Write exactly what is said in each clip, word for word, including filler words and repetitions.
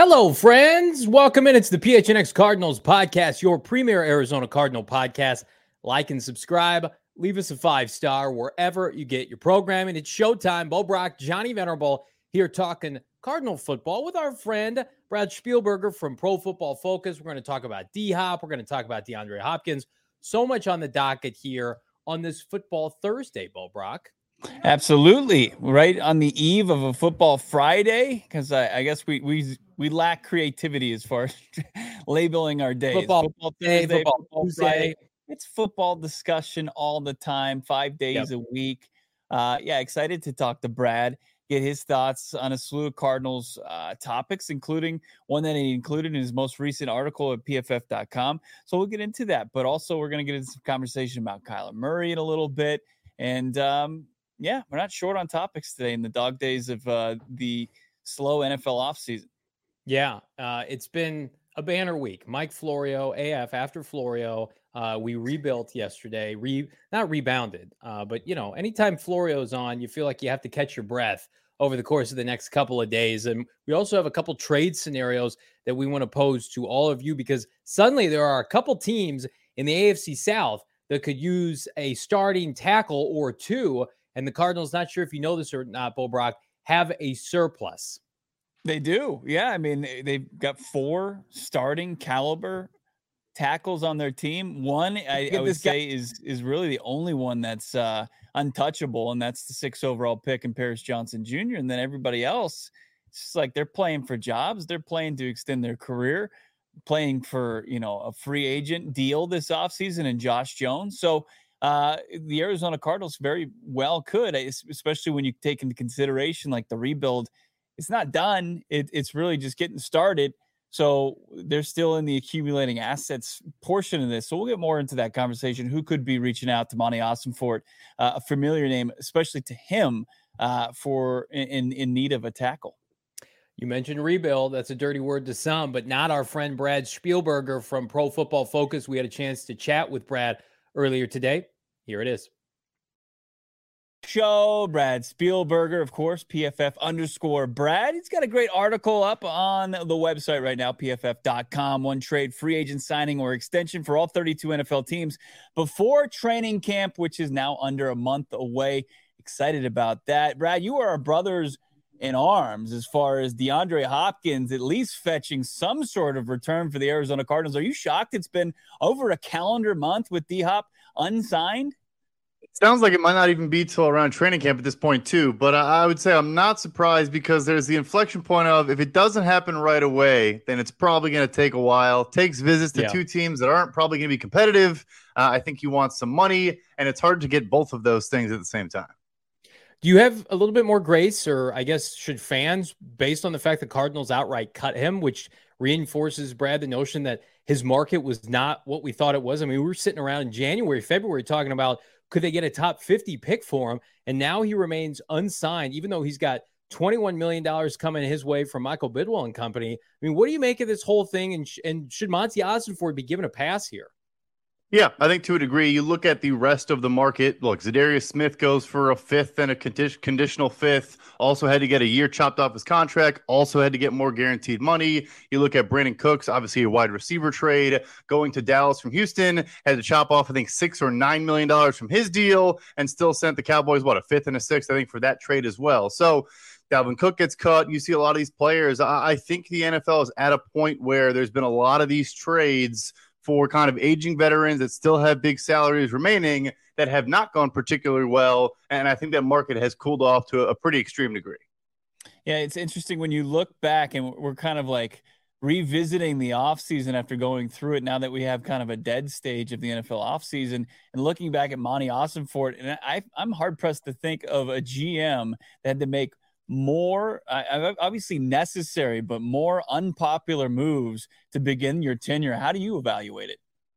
Hello, friends. Welcome in. It's the P H N X Cardinals podcast, your premier Arizona Cardinal podcast. Like and subscribe. Leave us a five-star wherever you get your programming. It's showtime. Bo Brock, Johnny Venerable here talking Cardinal football with our friend Brad Spielberger from Pro Football Focus. We're going to talk about D-Hop. We're going to talk about DeAndre Hopkins. So much on the docket here on this Football Thursday, Bo Brock. Absolutely. Right on the eve of a Football Friday, because I, I guess we we we lack creativity as far as labeling our days. Football, football Thursday, Thursday, football, Football Tuesday. Friday. It's football discussion all the time, five days Yep. a week. Uh, yeah, excited to talk to Brad, get his thoughts on a slew of Cardinals uh, topics, including one that he included in his most recent article at P F F dot com. So we'll get into that, but also we're going to get into some conversation about Kyler Murray in a little bit. And um, yeah, we're not short on topics today in the dog days of uh, the slow N F L offseason. Yeah, uh, it's been a banner week. Mike Florio, A F after Florio. Uh, we rebuilt yesterday, re not rebounded, uh, but you know, anytime Florio's on, you feel like you have to catch your breath over the course of the next couple of days. And we also have a couple trade scenarios that we want to pose to all of you, because suddenly there are a couple teams in the A F C South that could use a starting tackle or two. And the Cardinals, not sure if you know this or not, Bo Brock, have a surplus. They do. Yeah. I mean, they've got four starting caliber tackles on their team. One, I, I would say, is is really the only one that's uh, untouchable, and that's the sixth overall pick in Paris Johnson Junior And then everybody else, it's just like they're playing for jobs. They're playing to extend their career, playing for, you know, a free agent deal this offseason and Josh Jones. So uh, the Arizona Cardinals very well could, especially when you take into consideration like the rebuild. It's not done. It, it's really just getting started. So they're still in the accumulating assets portion of this. So we'll get more into that conversation. Who could be reaching out to Monty Ossenfort, uh, a familiar name, especially to him, uh, for in, in need of a tackle. You mentioned rebuild. That's a dirty word to some, but not our friend Brad Spielberger from Pro Football Focus. We had a chance to chat with Brad earlier today. Here it is. Show Brad Spielberger, of course, P F F underscore Brad. He's got a great article up on the website right now, P F F dot com. One trade, free agent signing or extension for all thirty-two N F L teams before training camp, which is now under a month away. Excited about that. Brad, you are our brothers in arms as far as DeAndre Hopkins at least fetching some sort of return for the Arizona Cardinals. Are you shocked it's been over a calendar month with D-Hop unsigned? Sounds like it might not even be till around training camp at this point too, but I would say I'm not surprised, because there's the inflection point of, if it doesn't happen right away, then it's probably going to take a while. Takes visits to Yeah. two teams that aren't probably going to be competitive. Uh, I think you want some money, and it's hard to get both of those things at the same time. Do you have a little bit more grace, or I guess should fans, based on the fact the Cardinals outright cut him, which reinforces, Brad, the notion that his market was not what we thought it was? I mean, we were sitting around in January, February talking about, could they get a top fifty pick for him? And now he remains unsigned, even though he's got twenty-one million dollars coming his way from Michael Bidwell and company. I mean, what do you make of this whole thing? And, sh- and should Monty Ossenfort be given a pass here? Yeah, I think to a degree. You look at the rest of the market. Look, Zadarius Smith goes for a fifth and a condi- conditional fifth. Also had to get a year chopped off his contract. Also had to get more guaranteed money. You look at Brandon Cooks, obviously a wide receiver trade, going to Dallas from Houston. Had to chop off, I think, six or nine million dollars from his deal, and still sent the Cowboys, what, a fifth and a sixth, I think, for that trade as well. So Dalvin Cook gets cut. You see a lot of these players. I, I think the N F L is at a point where there's been a lot of these trades for kind of aging veterans that still have big salaries remaining that have not gone particularly well. And I think that market has cooled off to a pretty extreme degree. Yeah, it's interesting when you look back, and we're kind of like revisiting the offseason after going through it now that we have kind of a dead stage of the N F L offseason, and looking back at Monty Ossenfort. And I, I'm hard-pressed to think of a G M that had to make more, uh, obviously necessary, but more unpopular moves to begin your tenure. How do you evaluate it?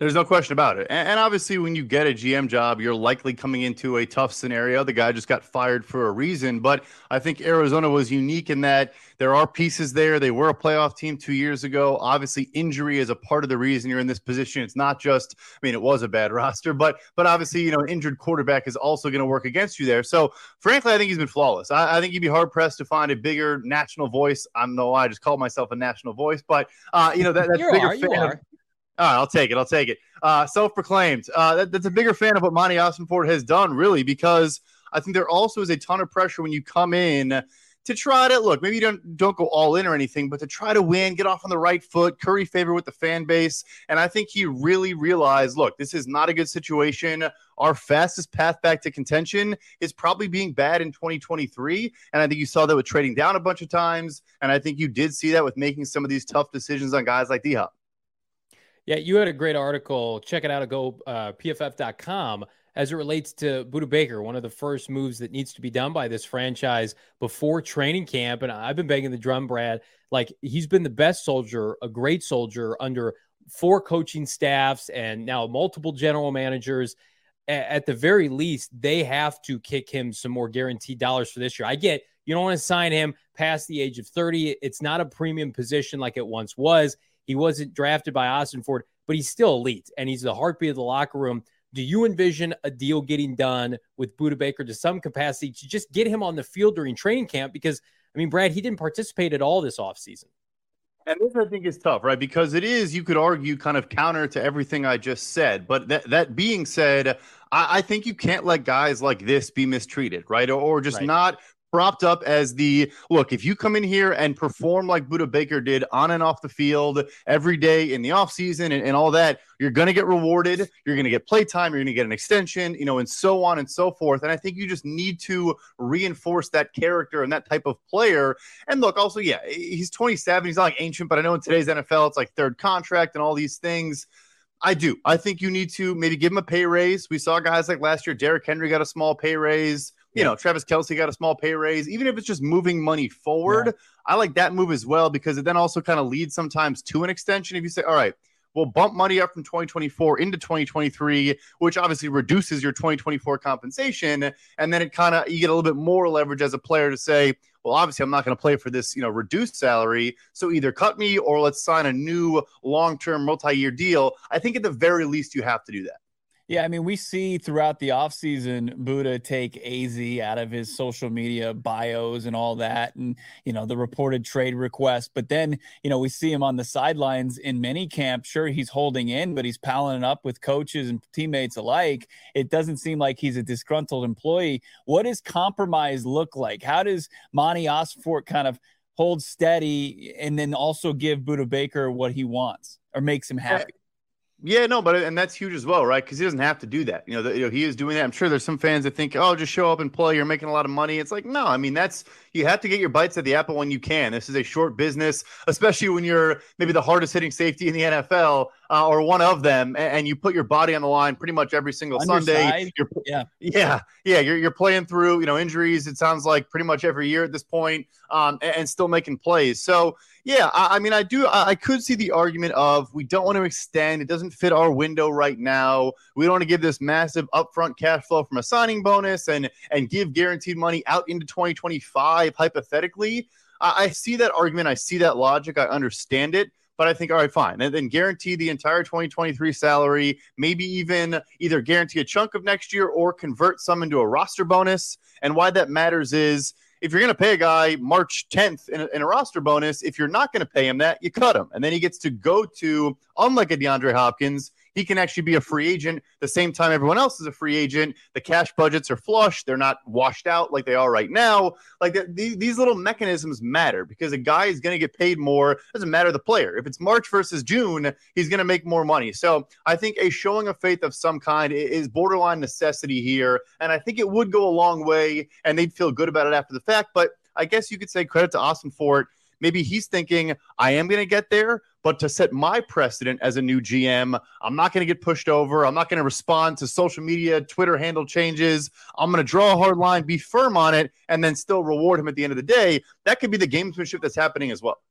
There's no question about it. And, and obviously, when you get a G M job, you're likely coming into a tough scenario. The guy just got fired for a reason. But I think Arizona was unique in that there are pieces there. They were a playoff team two years ago. Obviously, injury is a part of the reason you're in this position. It's not just, I mean, it was a bad roster, but but obviously, you know, an injured quarterback is also going to work against you there. So, frankly, I think he's been flawless. I, I think you'd be hard-pressed to find a bigger national voice. I don't know why I just called myself a national voice, but, uh, you know, that, that's you bigger are, you fan are. Of, all right, I'll take it. I'll take it. Uh, self-proclaimed. Uh, that, that's a bigger fan of what Monty Ossenfort has done, really, because I think there also is a ton of pressure when you come in to try to look. Maybe you don't don't go all in or anything, but to try to win, get off on the right foot, curry favor with the fan base. And I think he really realized, look, this is not a good situation. Our fastest path back to contention is probably being bad in twenty twenty-three. And I think you saw that with trading down a bunch of times. And I think you did see that with making some of these tough decisions on guys like D-Hop. Yeah, you had a great article. Check it out at go uh, P F F dot com as it relates to Budda Baker, one of the first moves that needs to be done by this franchise before training camp. And I've been banging the drum, Brad. Like, he's been the best soldier, a great soldier under four coaching staffs and now multiple general managers. At the very least, they have to kick him some more guaranteed dollars for this year. I get you don't want to sign him past the age of thirty. It's not a premium position like it once was. He wasn't drafted by Ossenfort, but he's still elite, and he's the heartbeat of the locker room. Do you envision a deal getting done with Budda Baker to some capacity to just get him on the field during training camp? Because, I mean, Brad, he didn't participate at all this offseason. And this, I think, is tough, right? Because it is, you could argue, kind of counter to everything I just said. But that, that being said, I, I think you can't let guys like this be mistreated, right? Or, or just right. not propped up as the, look, if you come in here and perform like Budda Baker did on and off the field every day in the offseason and, and all that, you're going to get rewarded. You're going to get play time. You're going to get an extension, you know, and so on and so forth. And I think you just need to reinforce that character and that type of player. And look, also, yeah, he's twenty-seven. He's not like ancient, but I know in today's N F L, it's like third contract and all these things. I do. I think you need to maybe give him a pay raise. We saw guys like last year, Derrick Henry got a small pay raise. You yeah. know, Travis Kelce got a small pay raise. Even if it's just moving money forward, yeah. I like that move as well, because it then also kind of leads sometimes to an extension. If you say, all right, we'll bump money up from twenty twenty-four into twenty twenty-three, which obviously reduces your twenty twenty-four compensation. And then it kind of, you get a little bit more leverage as a player to say, well, obviously I'm not going to play for this, you know, reduced salary. So either cut me or let's sign a new long-term multi-year deal. I think at the very least you have to do that. Yeah, I mean, we see throughout the offseason, Budda take A Z out of his social media bios and all that, and, you know, the reported trade request. But then, you know, we see him on the sidelines in mini camp. Sure, he's holding in, but he's palling up with coaches and teammates alike. It doesn't seem like he's a disgruntled employee. What does compromise look like? How does Monty Ossenfort kind of hold steady and then also give Budda Baker what he wants or makes him happy? Yeah, no, but and that's huge as well, right? Because he doesn't have to do that. You know, the, you know, he is doing that. I'm sure there's some fans that think, oh, just show up and play. You're making a lot of money. It's like, no, I mean, that's you have to get your bites at the apple when you can. This is a short business, especially when you're maybe the hardest hitting safety in the N F L uh, or one of them, and, and you put your body on the line pretty much every single Underside. Sunday. You're, yeah, yeah, yeah. You're you're playing through, you know, injuries. It sounds like pretty much every year at this point, um, and, and still making plays. So. Yeah, I, I mean, I do. I, I could see the argument of we don't want to extend. It doesn't fit our window right now. We don't want to give this massive upfront cash flow from a signing bonus and and give guaranteed money out into twenty twenty-five, hypothetically. I, I see that argument. I see that logic. I understand it. But I think, all right, fine. And then guarantee the entire twenty twenty-three salary, maybe even either guarantee a chunk of next year or convert some into a roster bonus. And why that matters is, if you're going to pay a guy March tenth in a, in a roster bonus, if you're not going to pay him that, you cut him. And then he gets to go to, unlike a DeAndre Hopkins, he can actually be a free agent the same time everyone else is a free agent. The cash budgets are flush. They're not washed out like they are right now. Like the, the, these little mechanisms matter because a guy is going to get paid more. Doesn't matter the player. If it's March versus June, he's going to make more money. So I think a showing of faith of some kind is borderline necessity here. And I think it would go a long way and they'd feel good about it after the fact. But I guess you could say credit to Ossenfort. Maybe he's thinking, I am going to get there, but to set my precedent as a new G M, I'm not going to get pushed over. I'm not going to respond to social media, Twitter handle changes. I'm going to draw a hard line, be firm on it, and then still reward him at the end of the day. That could be the gamesmanship that's happening as well.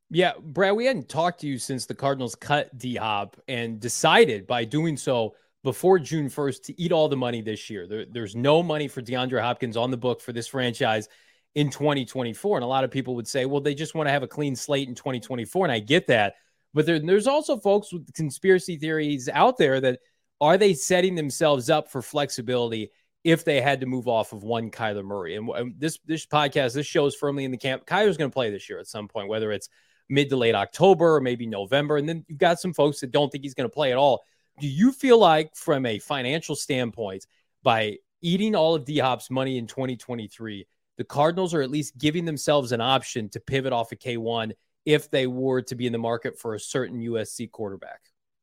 Yeah, Brad, we hadn't talked to you since the Cardinals cut D-Hop and decided by doing so before June first to eat all the money this year. There, there's no money for DeAndre Hopkins on the book for this franchise in twenty twenty-four. And a lot of people would say, well, they just want to have a clean slate in twenty twenty-four. And I get that. But there, there's also folks with conspiracy theories out there that are they setting themselves up for flexibility if they had to move off of one Kyler Murray? And, and this, this podcast, this show is firmly in the camp. Kyler's going to play this year at some point, whether it's mid to late October or maybe November. And then you've got some folks that don't think he's going to play at all. Do you feel like from a financial standpoint, by eating all of D-Hop's money in twenty twenty-three, the Cardinals are at least giving themselves an option to pivot off of K one if they were to be in the market for a certain U S C quarterback?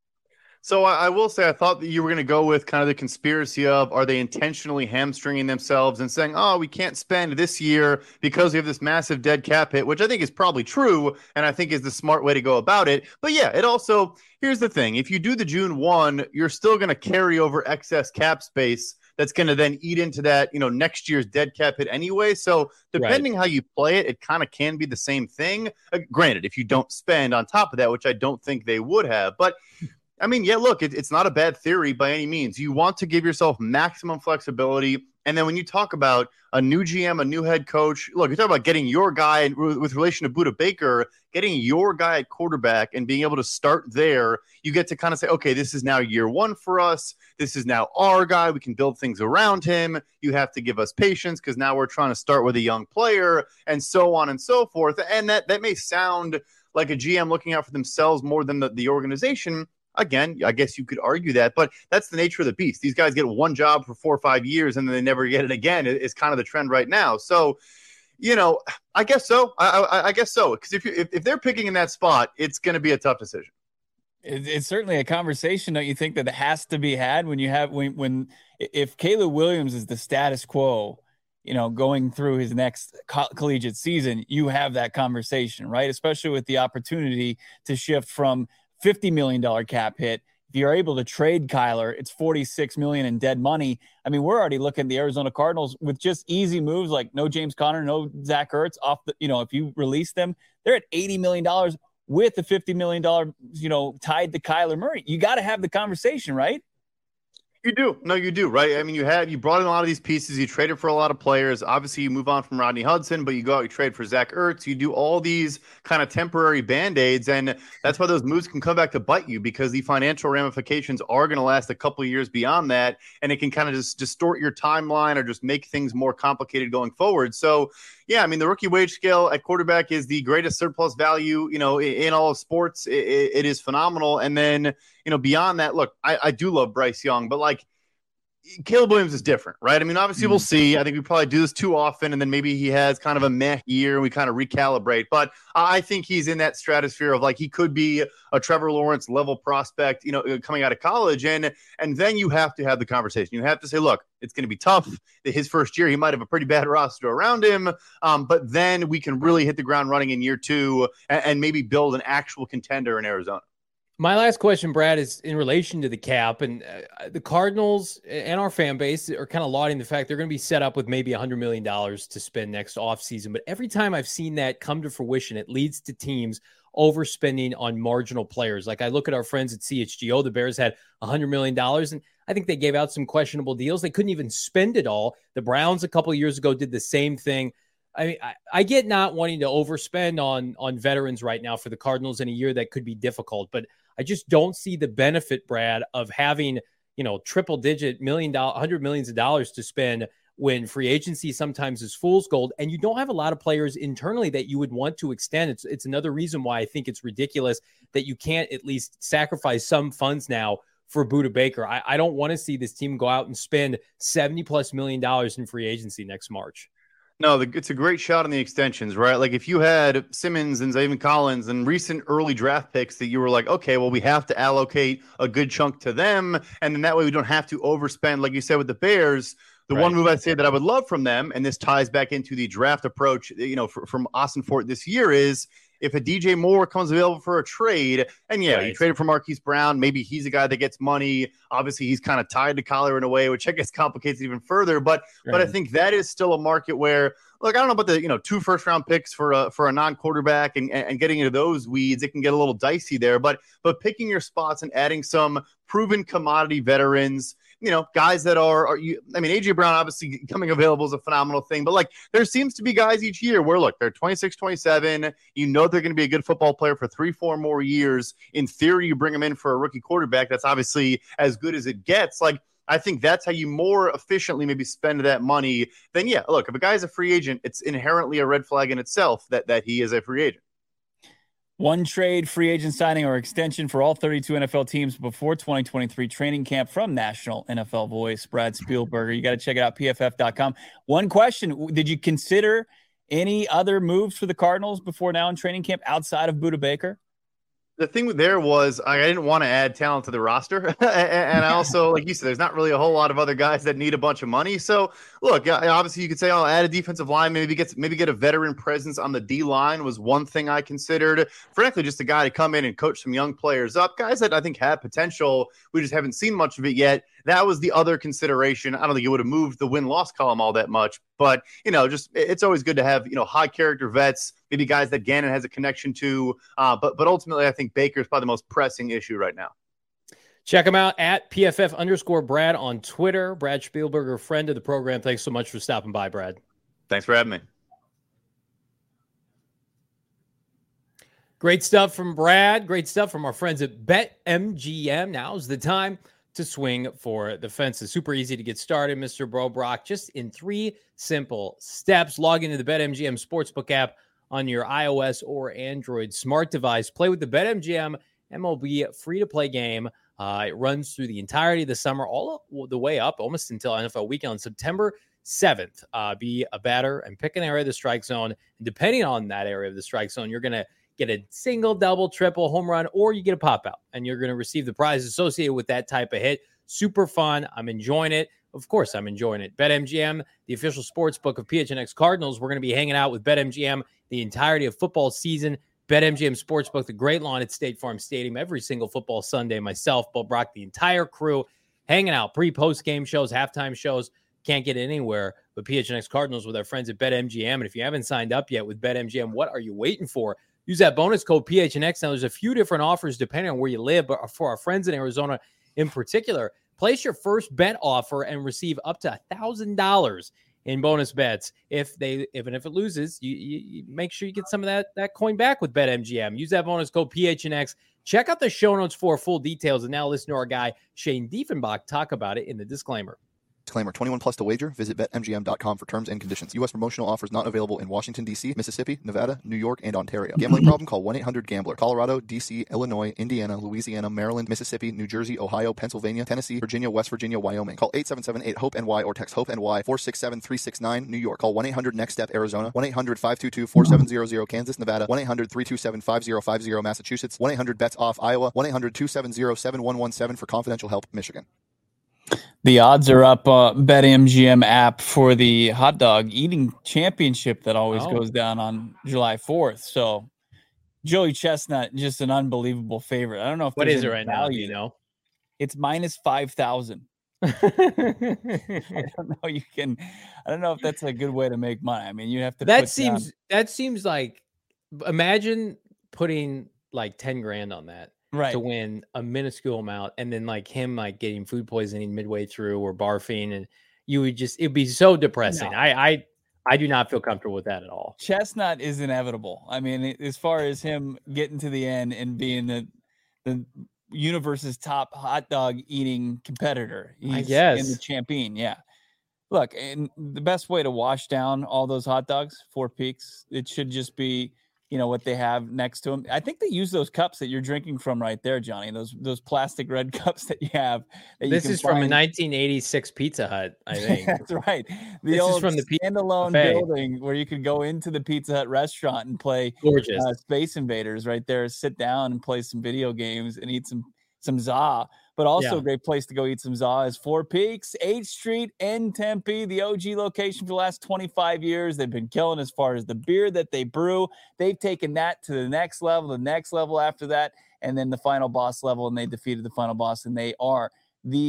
So I, I will say I thought that you were going to go with kind of the conspiracy of, are they intentionally hamstringing themselves and saying, oh, we can't spend this year because we have this massive dead cap hit, which I think is probably true and I think is the smart way to go about it. But yeah, it also, here's the thing. If you do the June first, you're still going to carry over excess cap space that's going to then eat into that, you know, next year's dead cap hit anyway. So depending right. how you play it, it kind of can be the same thing. Uh, granted, if you don't spend on top of that, which I don't think they would have, but I mean, yeah, look, it, it's not a bad theory by any means. You want to give yourself maximum flexibility. And then when you talk about a new G M, a new head coach, look, you're talking about getting your guy with relation to Budda Baker, getting your guy at quarterback and being able to start there. You get to kind of say, okay, this is now year one for us. This is now our guy. We can build things around him. You have to give us patience because now we're trying to start with a young player and so on and so forth. And that, that may sound like a G M looking out for themselves more than the, the organization. Again, I guess you could argue that, but that's the nature of the beast. These guys get one job for four or five years and then they never get it again. It's kind of the trend right now. So, you know, I guess so. I, I, I guess so. Because if, you, if if they're picking in that spot, it's going to be a tough decision. It, it's certainly a conversation, don't you think, that has to be had when you have when when if Caleb Williams is the status quo, you know, going through his next co- collegiate season, you have that conversation, right? Especially with the opportunity to shift from fifty million dollars cap hit. If you're able to trade Kyler, it's forty-six million dollars in dead money. I mean, we're already looking at the Arizona Cardinals with just easy moves like no James Conner, no Zach Ertz off the, you know, if you release them, they're at eighty million dollars with the fifty million dollars, you know, tied to Kyler Murray. You got to have the conversation, right? You do. No, you do, right? I mean, you had, you brought in a lot of these pieces. You traded for a lot of players. Obviously, you move on from Rodney Hudson, but you go out, you trade for Zach Ertz. You do all these kind of temporary Band-Aids, and that's why those moves can come back to bite you because the financial ramifications are going to last a couple of years beyond that, and it can kind of just distort your timeline or just make things more complicated going forward. So, yeah, I mean, the rookie wage scale at quarterback is the greatest surplus value, you know, in, in all of sports. It, it is phenomenal. And then, you know, beyond that, look, I, I do love Bryce Young, but like Caleb Williams is different, right? I mean, obviously mm. we'll see. I think we probably do this too often, and then maybe he has kind of a meh year and we kind of recalibrate. But I think he's in that stratosphere of like he could be a Trevor Lawrence level prospect, you know, coming out of college. And and then you have to have the conversation. You have to say, look, it's going to be tough. His first year, he might have a pretty bad roster around him, um, but then we can really hit the ground running in year two and, and maybe build an actual contender in Arizona. My last question, Brad, is in relation to the cap, and uh, the Cardinals and our fan base are kind of lauding the fact they're going to be set up with maybe one hundred million dollars to spend next offseason. But every time I've seen that come to fruition, it leads to teams overspending on marginal players. Like I look at our friends at C H G O, the Bears had one hundred million dollars, and I think they gave out some questionable deals. They couldn't even spend it all. The Browns a couple of years ago did the same thing. I mean, I, I get not wanting to overspend on, on veterans right now for the Cardinals in a year that could be difficult, but I just don't see the benefit, Brad, of having, you know, triple digit million dollar, hundred millions of dollars to spend when free agency sometimes is fool's gold. And you don't have a lot of players internally that you would want to extend. It's, it's another reason why I think it's ridiculous that you can't at least sacrifice some funds now for Budda Baker. I, I don't want to see this team go out and spend seventy plus million dollars in free agency next March. No, the, it's a great shot on the extensions, right? Like if you had Simmons and Zaven Collins and recent early draft picks that you were like, okay, well, we have to allocate a good chunk to them. And then that way we don't have to overspend, like you said, with the Bears. The right. one move I'd say that I would love from them, and this ties back into the draft approach, you know, for, from Austin Fort this year is if a D J Moore comes available for a trade, and yeah, right. you traded for Marquise Brown, maybe he's a guy that gets money. Obviously, he's kind of tied to Kyler in a way, which I guess complicates it even further. But right. but I think that is still a market where, look, I don't know about the, you know, two first round picks for a, for a non-quarterback and, and getting into those weeds. It can get a little dicey there, but, but picking your spots and adding some proven commodity veterans, you know, guys that are, are you, I mean, A J Brown obviously becoming available is a phenomenal thing, but like there seems to be guys each year where look, they're twenty-six, twenty-seven, you know, they're going to be a good football player for three, four more years. In theory, you bring them in for a rookie quarterback. That's obviously as good as it gets. Like, I think that's how you more efficiently maybe spend that money. Then yeah, look, if a guy's a free agent, it's inherently a red flag in itself that, that he is a free agent. One trade, free agent signing, or extension for all thirty-two N F L teams before twenty twenty-three training camp from National N F L Voice, Brad Spielberger. You got to check it out, P F F dot com. One question, did you consider any other moves for the Cardinals before now in training camp outside of Budda Baker? The thing there was I didn't want to add talent to the roster. And I also, like you said, there's not really a whole lot of other guys that need a bunch of money. So look, obviously you could say, I'll add a defensive line, maybe get, maybe get a veteran presence on the D line was one thing I considered. Frankly, just a guy to come in and coach some young players up, guys that I think have potential. We just haven't seen much of it yet. That was the other consideration. I don't think it would have moved the win-loss column all that much, but, you know, just it's always good to have, you know, high-character vets, maybe guys that Gannon has a connection to. Uh, but but ultimately, I think Baker is probably the most pressing issue right now. Check him out at P F F underscore Brad on Twitter. Brad Spielberger, friend of the program. Thanks so much for stopping by, Brad. Thanks for having me. Great stuff from Brad. Great stuff from our friends at BetMGM. Now's the time to swing for the fences. Super easy to get started, Mister Bro Brock. Just in three simple steps. Log into the BetMGM Sportsbook app on your iOS or Android smart device. Play with the BetMGM M L B free-to-play game. Uh, it runs through the entirety of the summer, all the way up, almost until N F L weekend on September seventh. Uh, be a batter and pick an area of the strike zone. And depending on that area of the strike zone, you're going to get a single, double, triple, home run, or you get a pop out, and you're going to receive the prize associated with that type of hit. Super fun. I'm enjoying it. Of course, I'm enjoying it. BetMGM, the official sports book of P H N X Cardinals. We're going to be hanging out with BetMGM the entirety of football season. BetMGM Sportsbook, the great lawn at State Farm Stadium every single football Sunday. Myself, Bo Brock, the entire crew hanging out. Pre, post game shows, halftime shows. Can't get anywhere but P H N X Cardinals with our friends at BetMGM. And if you haven't signed up yet with BetMGM, what are you waiting for? Use that bonus code P H N X. Now, there's a few different offers depending on where you live, but for our friends in Arizona in particular, place your first bet offer and receive up to one thousand dollars in bonus bets. If they, if and if it loses, you, you, you make sure you get some of that, that coin back with BetMGM. Use that bonus code P H N X. Check out the show notes for full details. And now listen to our guy, Shane Diefenbach, talk about it in the disclaimer. Disclaimer, twenty-one plus to wager. Visit Bet M G M dot com for terms and conditions. U S promotional offers not available in Washington, D C, Mississippi, Nevada, New York, and Ontario. Gambling problem? Call one eight hundred gambler. Colorado, D C, Illinois, Indiana, Louisiana, Maryland, Mississippi, New Jersey, Ohio, Pennsylvania, Tennessee, Virginia, West Virginia, Wyoming. Call eight seven seven eight hope N Y or text HOPE-NY four six seven three six nine, New York. Call one eight hundred next step Arizona. one eight hundred five two two four seven zero zero, Kansas, Nevada. one eight hundred three two seven five zero five zero, Massachusetts. one eight hundred bets off, Iowa. one eight hundred two seven zero seven one one seven for confidential help, Michigan. The odds are up, uh, BetMGM app for the hot dog eating championship that always oh. goes down on July fourth. So Joey Chestnut, just an unbelievable favorite. I don't know if what is it right now. You know, it's minus five thousand. I don't know. You can. I don't know if that's a good way to make money. I mean, you have to. That put seems. Down... That seems like. Imagine putting like ten grand on that. Right. To win a minuscule amount, and then like him like getting food poisoning midway through or barfing, and you would just it'd be so depressing. No. I I I do not feel comfortable with that at all. Chestnut is inevitable. I mean, as far as him getting to the end and being the the universe's top hot dog eating competitor, he's I guess in the champion. Yeah. Look, and the best way to wash down all those hot dogs, Four Peaks, it should just be, you know, what they have next to them. I think they use those cups that you're drinking from right there, Johnny. Those those plastic red cups that you have. That this you is from a nineteen eighty-six Pizza Hut, I think. That's right. The this old is from the standalone building where you could go into the Pizza Hut restaurant and play Gorgeous. Uh, Space Invaders right there. Sit down and play some video games and eat some some za. But also yeah. a great place to go eat some za is Four Peaks, eighth Street in Tempe, the O G location for the last twenty-five years. They've been killing as far as the beer that they brew. They've taken that to the next level, the next level after that, and then the final boss level, and they defeated the final boss, and they are the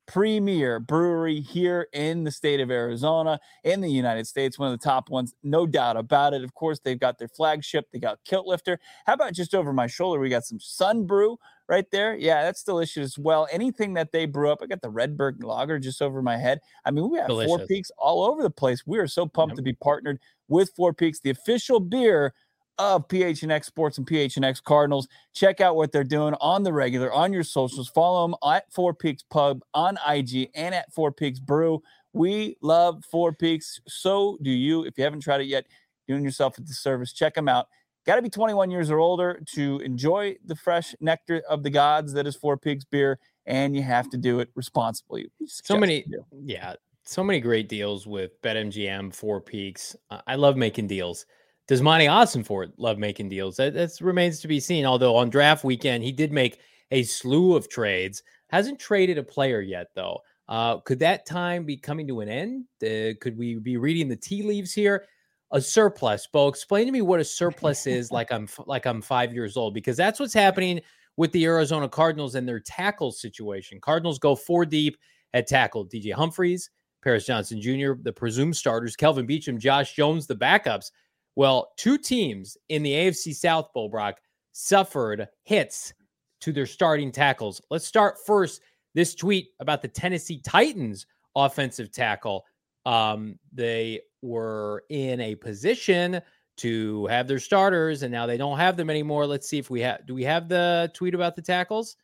premier brewery here in the state of Arizona, in the United States, one of the top ones, no doubt about it. Of course, they've got their flagship. They got Kilt Lifter. How about just over my shoulder? We got some Sun Brew right there. Yeah, that's delicious as well. Anything that they brew up. I got the Redberg Lager just over my head. I mean, we have delicious. Four Peaks all over the place. We are so pumped yep. to be partnered with Four Peaks, the official beer of P H N X Sports and P H N X Cardinals. Check out what they're doing on the regular, on your socials. Follow them at Four Peaks Pub on I G and at Four Peaks Brew. We love Four Peaks. So do you. If you haven't tried it yet, doing yourself a disservice. Check them out. Got to be twenty-one years or older to enjoy the fresh nectar of the gods that is Four Peaks beer, and you have to do it responsibly. So many, yeah, so many great deals with BetMGM, Four Peaks. Uh, I love making deals. Does Monty Ossenfort love making deals? That that's remains to be seen. Although on draft weekend, he did make a slew of trades. Hasn't traded a player yet, though. Uh, could that time be coming to an end? Uh, could we be reading the tea leaves here? A surplus, Bo. Explain to me what a surplus is. Like I'm like I'm five years old, because that's what's happening with the Arizona Cardinals and their tackle situation. Cardinals go four deep at tackle. D J Humphries, Paris Johnson Junior, the presumed starters, Kelvin Beachum, Josh Jones, the backups. Well, two teams in the A F C South, Bo Brock, suffered hits to their starting tackles. Let's start first. This tweet about the Tennessee Titans offensive tackle. Um, they were in a position to have their starters, and now they don't have them anymore. Let's see if we have. Do we have the tweet about the tackles?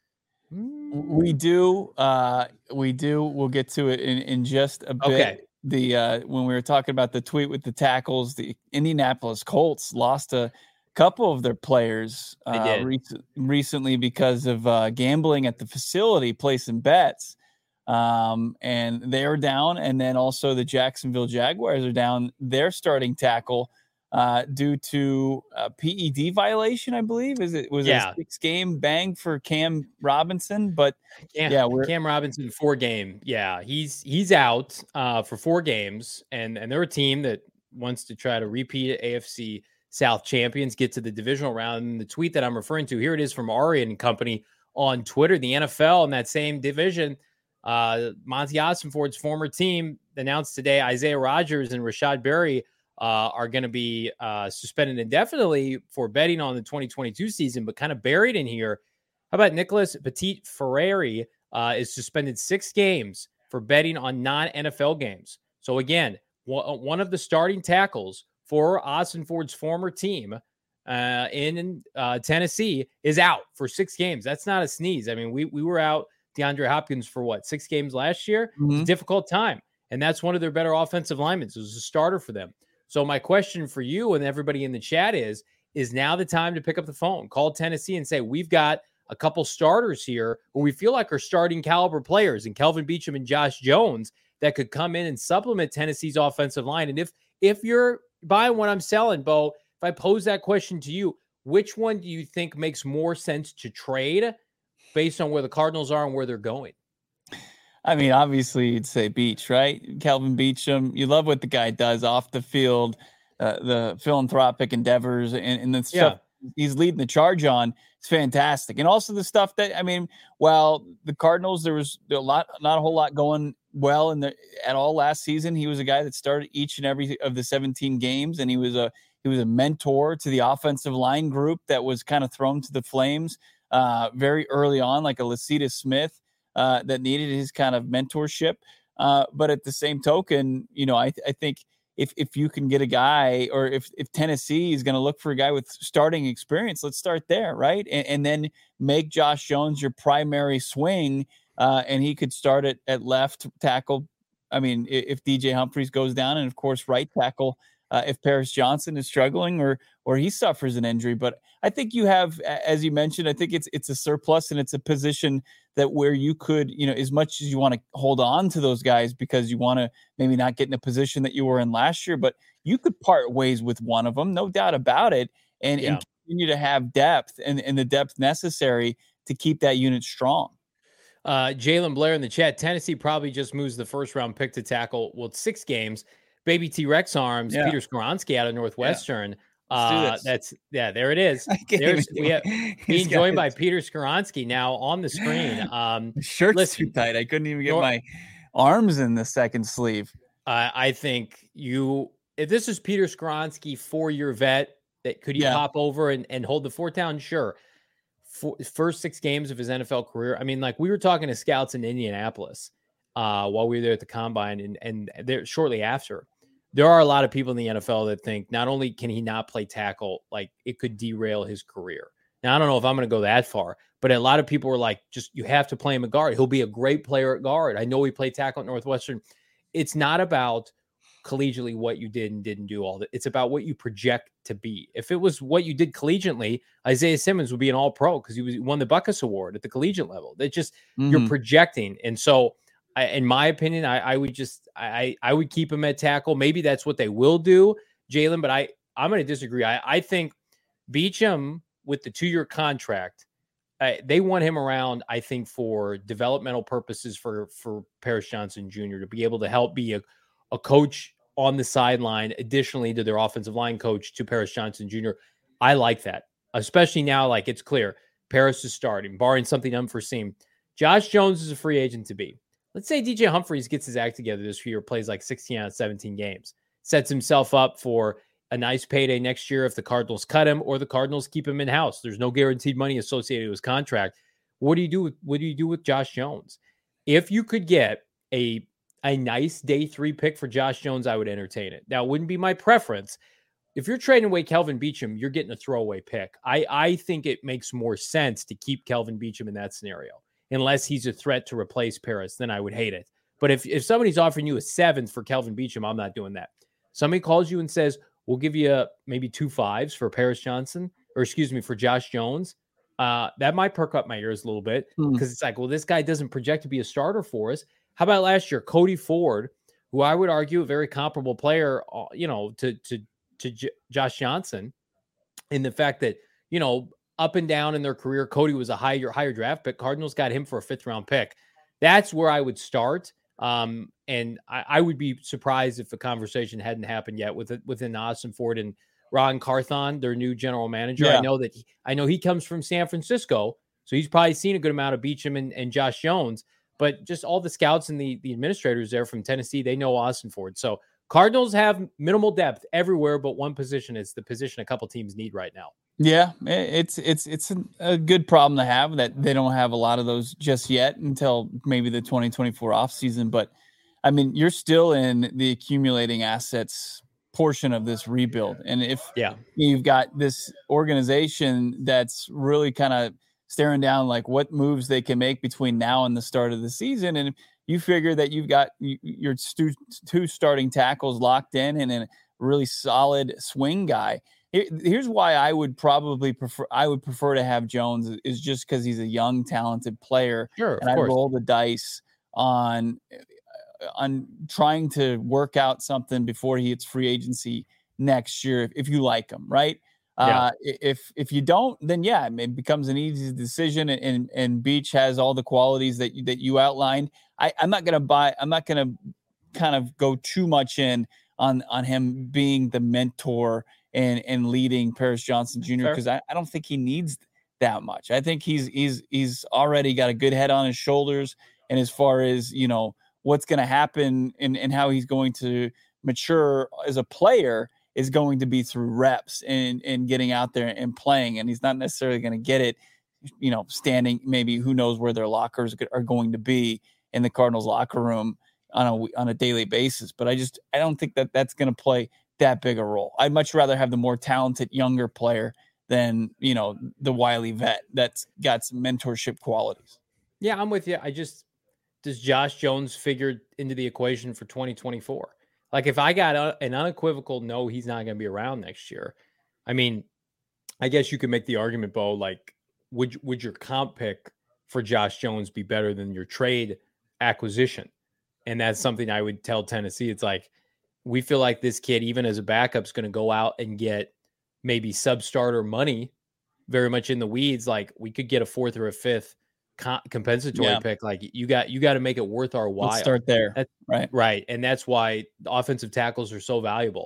We do. Uh, we do. We'll get to it in, in just a bit. Okay. The uh, when we were talking about the tweet with the tackles, the Indianapolis Colts lost a couple of their players uh, rec- recently because of uh, gambling at the facility, placing bets, um, and they are down. And then also the Jacksonville Jaguars are down their starting tackle uh, due to a P E D violation, I believe. Is it was yeah. a six game bang for Cam Robinson? But Cam, yeah, we're, Cam Robinson four game. Yeah, he's he's out uh, for four games, and and they're a team that wants to try to repeat A F C South champions, get to the divisional round. And the tweet that I'm referring to here, it is from Ari and company on Twitter. The N F L in that same division, uh, Monty Ossenfort's former team announced today Isaiah Rodgers and Rashad Berry Uh, are going to be uh, suspended indefinitely for betting on the twenty twenty-two season, but kind of buried in here. How about Nicholas Petit Ferreri uh, is suspended six games for betting on non-N F L games. So again, w- one of the starting tackles for Ossenfort's former team uh, in uh, Tennessee is out for six games. That's not a sneeze. I mean, we we were out DeAndre Hopkins for what, six games last year? Mm-hmm. It's a difficult time. And that's one of their better offensive linemen. It was a starter for them. So my question for you and everybody in the chat is, is now the time to pick up the phone, call Tennessee and say, we've got a couple starters here who we feel like are starting caliber players in Kelvin Beachum and Josh Jones that could come in and supplement Tennessee's offensive line. And if, if you're buying what I'm selling, Bo, if I pose that question to you, which one do you think makes more sense to trade based on where the Cardinals are and where they're going? I mean, obviously, you'd say Beach, right? Kelvin Beachum. You love what the guy does off the field, uh, the philanthropic endeavors, and, and the stuff yeah. he's leading the charge on. It's fantastic. And also the stuff that, I mean, while the Cardinals, there was a lot, not a whole lot going well in the at all last season. He was a guy that started each and every of the seventeen games, and he was a he was a mentor to the offensive line group that was kind of thrown to the flames uh, very early on, like a Lacita Smith. Uh, that needed his kind of mentorship. Uh, but at the same token, you know, I, th- I think if if you can get a guy, or if, if Tennessee is going to look for a guy with starting experience, let's start there, right? And, and then make Josh Jones your primary swing, uh, and he could start at, at left tackle. I mean, if D J Humphries goes down, and of course right tackle uh, if Paris Johnson is struggling or or he suffers an injury. But I think you have, as you mentioned, I think it's it's a surplus, and it's a position that where you could, you know, as much as you want to hold on to those guys because you want to maybe not get in a position that you were in last year, but you could part ways with one of them, no doubt about it, and, yeah. and continue to have depth and, and the depth necessary to keep that unit strong. Uh, Jalen Blair in the chat, Tennessee probably just moves the first round pick to tackle, well, six games. Baby T-Rex arms, yeah. Peter Skoronski out of Northwestern. Uh, that's yeah, there it is. There's we have being joined by Peter Skoronski now on the screen. Um, shirt's listen, too tight. I couldn't even get nor, my arms in the second sleeve. Uh, I think you, if this is Peter Skoronski, four-year vet, that could he Yeah. pop over and, and hold the fort down? Sure. For, first six games of his N F L career. I mean, like we were talking to scouts in Indianapolis uh, while we were there at the combine, and and there shortly after. There are a lot of people in the N F L that think not only can he not play tackle, like it could derail his career. Now, I don't know if I'm going to go that far, but a lot of people were like, just you have to play him at guard. He'll be a great player at guard. I know he played tackle at Northwestern. It's not about collegiately what you did and didn't do all that. It's about what you project to be. If it was what you did collegiately, Isaiah Simmons would be an all pro because he was he won the Buckus Award at the collegiate level. They just mm-hmm. you're projecting. And so I, in my opinion, I, I would just I I would keep him at tackle. Maybe that's what they will do, Jalen. But I I'm going to disagree. I I think Beachum with the two year contract, uh, they want him around. I think for developmental purposes for for Paris Johnson Junior to be able to help be a a coach on the sideline, additionally to their offensive line coach to Paris Johnson Junior I like that, especially now. Like it's clear Paris is starting, barring something unforeseen. Josh Jones is a free agent to be. Let's say D J Humphries gets his act together this year, plays like sixteen out of seventeen games, sets himself up for a nice payday next year if the Cardinals cut him or the Cardinals keep him in-house. There's no guaranteed money associated with his contract. What do you do with, what do you do with Josh Jones? If you could get a, a nice day three pick for Josh Jones, I would entertain it. Now, it wouldn't be my preference. If you're trading away Kelvin Beachum, you're getting a throwaway pick. I, I think it makes more sense to keep Kelvin Beachum in that scenario. Unless he's a threat to replace Paris, then I would hate it. But if, if somebody's offering you a seventh for Kelvin Beachum, I'm not doing that. Somebody calls you and says, we'll give you a, maybe two fives for Paris Johnson, or excuse me, for Josh Jones. Uh, that might perk up my ears a little bit because mm. it's like, well, this guy doesn't project to be a starter for us. How about last year, Cody Ford, who I would argue a very comparable player, uh, you know, to, to, to J- Josh Johnson in the fact that, you know, up and down in their career, Cody was a higher higher draft pick. Cardinals got him for a fifth round pick. That's where I would start. Um, and I, I would be surprised if the conversation hadn't happened yet with within Austin Ford and Ron Carthon, their new general manager. Yeah. I know that he, I know he comes from San Francisco, so he's probably seen a good amount of Beachum and, and Josh Jones. But just all the scouts and the the administrators there from Tennessee, they know Austin Ford. So Cardinals have minimal depth everywhere, but one position is the position a couple teams need right now. Yeah, it's it's it's a good problem to have that they don't have a lot of those just yet until maybe the twenty twenty-four offseason. But, I mean, you're still in the accumulating assets portion of this rebuild. And if yeah. you've got this organization that's really kind of staring down like what moves they can make between now and the start of the season, and you figure that you've got your stu- two starting tackles locked in and a really solid swing guy, here's why I would probably prefer I would prefer to have Jones is just because he's a young, talented player. Sure, and I roll the dice on on trying to work out something before he hits free agency next year. If, if you like him, right? Yeah. Uh, if if you don't, then yeah, it becomes an easy decision. And and Beach has all the qualities that you, that you outlined. I, I'm not gonna buy. I'm not gonna kind of go too much in on on him being the mentor and and leading Paris Johnson Junior because I, I don't think he needs that much. I think he's he's he's already got a good head on his shoulders, and as far as you know what's going to happen and, and how he's going to mature as a player is going to be through reps and and getting out there and playing, and he's not necessarily going to get it, you know, standing maybe who knows where their lockers are going to be in the Cardinals locker room on a on a daily basis. But I just I don't think that that's going to play that big a role. I'd much rather have the more talented younger player than, you know, the wily vet that's got some mentorship qualities. Yeah, I'm with you. I just, does Josh Jones figure into the equation for twenty twenty-four? Like if I got a, an unequivocal, no, he's not going to be around next year. I mean, I guess you could make the argument, Bo, like would, would your comp pick for Josh Jones be better than your trade acquisition? And that's something I would tell Tennessee. It's like, we feel like this kid, even as a backup, is going to go out and get maybe sub-starter money, very much in the weeds. Like we could get a fourth or a fifth co- compensatory yeah. pick. Like you got, you got to make it worth our while. Let's start there. That's, right. Right. And that's why the offensive tackles are so valuable.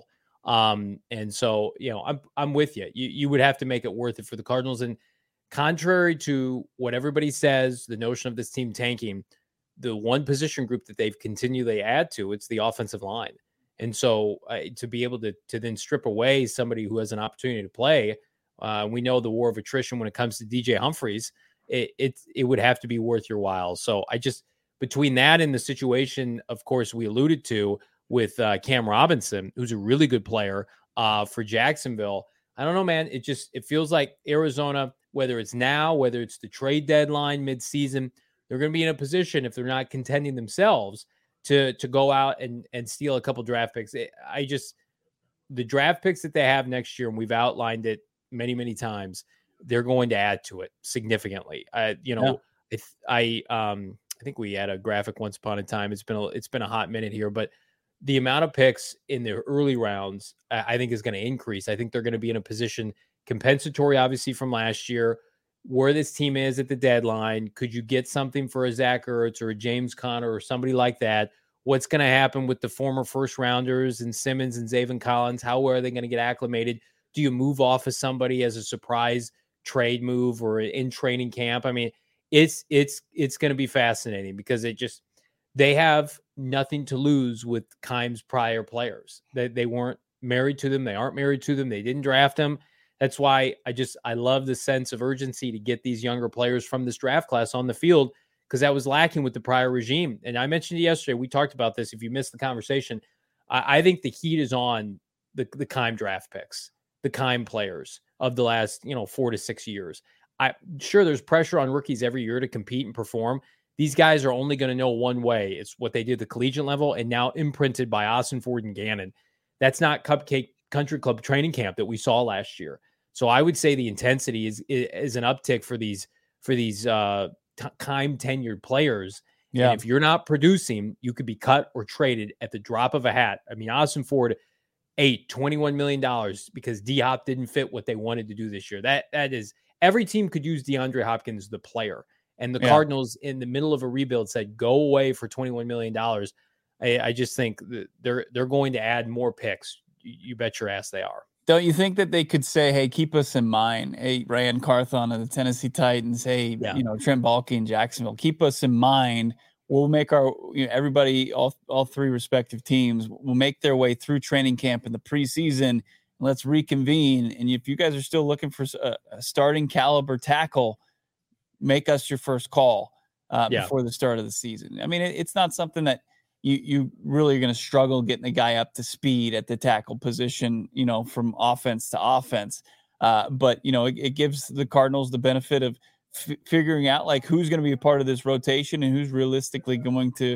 Um, and so, you know, I'm I'm with you. You you would have to make it worth it for the Cardinals. And contrary to what everybody says, the notion of this team tanking, the one position group that they've continually add to, it's the offensive line. And so uh, to be able to to then strip away somebody who has an opportunity to play, uh, we know the war of attrition when it comes to D J Humphries, it, it it would have to be worth your while. So I just, between that and the situation, of course, we alluded to with uh, Cam Robinson, who's a really good player uh, for Jacksonville. I don't know, man. It just, it feels like Arizona, whether it's now, whether it's the trade deadline midseason, they're going to be in a position, if they're not contending themselves, to to go out and, and steal a couple draft picks. It, I just, the draft picks that they have next year, and we've outlined it many, many times, they're going to add to it significantly. I, you know, yeah. if I, um, I think we had a graphic once upon a time. It's been a, it's been a hot minute here, but the amount of picks in the early rounds, I think, is going to increase. I think they're going to be in a position compensatory, obviously, from last year, where this team is at the deadline. Could you get something for a Zach Ertz or a James Conner or somebody like that? What's going to happen with the former first rounders and Simmons and Zaven Collins? How are they going to get acclimated? Do you move off of somebody as a surprise trade move or in training camp? I mean, it's, it's, it's going to be fascinating because it just, they have nothing to lose with Keim's prior players. They, they weren't married to them. They aren't married to them. They didn't draft them. That's why I just, I love the sense of urgency to get these younger players from this draft class on the field, because that was lacking with the prior regime. And I mentioned it yesterday. We talked about this. If you missed the conversation, I, I think the heat is on the, the Keim draft picks, the Keim players of the last, you know, four to six years. I'm sure there's pressure on rookies every year to compete and perform. These guys are only going to know one way. It's what they did at the collegiate level, and now imprinted by Austin Ford and Gannon. That's not Cupcake Country Club training camp that we saw last year. So I would say the intensity is is an uptick for these for these uh, t- Keim tenured players. Yeah. And if you're not producing, you could be cut or traded at the drop of a hat. I mean, Austin Ford ate twenty-one million dollars because D-Hop didn't fit what they wanted to do this year. That that is, every team could use DeAndre Hopkins, the player. And the yeah. Cardinals, in the middle of a rebuild, said, go away for twenty-one million dollars. I, I just think that they're they're going to add more picks. You bet your ass they are. Don't you think that they could say, hey, keep us in mind? Hey, Ryan Carthon of the Tennessee Titans. Hey, yeah. you know, Trent Baalke in Jacksonville. Keep us in mind. We'll make our, you know, everybody, all, all three respective teams will make their way through training camp in the preseason. Let's reconvene. And if you guys are still looking for a, a starting caliber tackle, make us your first call uh, yeah. before the start of the season. I mean, it, it's not something that you you really are going to struggle getting a guy up to speed at the tackle position, you know, from offense to offense. Uh, but, you know, it, it gives the Cardinals the benefit of f- figuring out like who's going to be a part of this rotation and who's realistically going to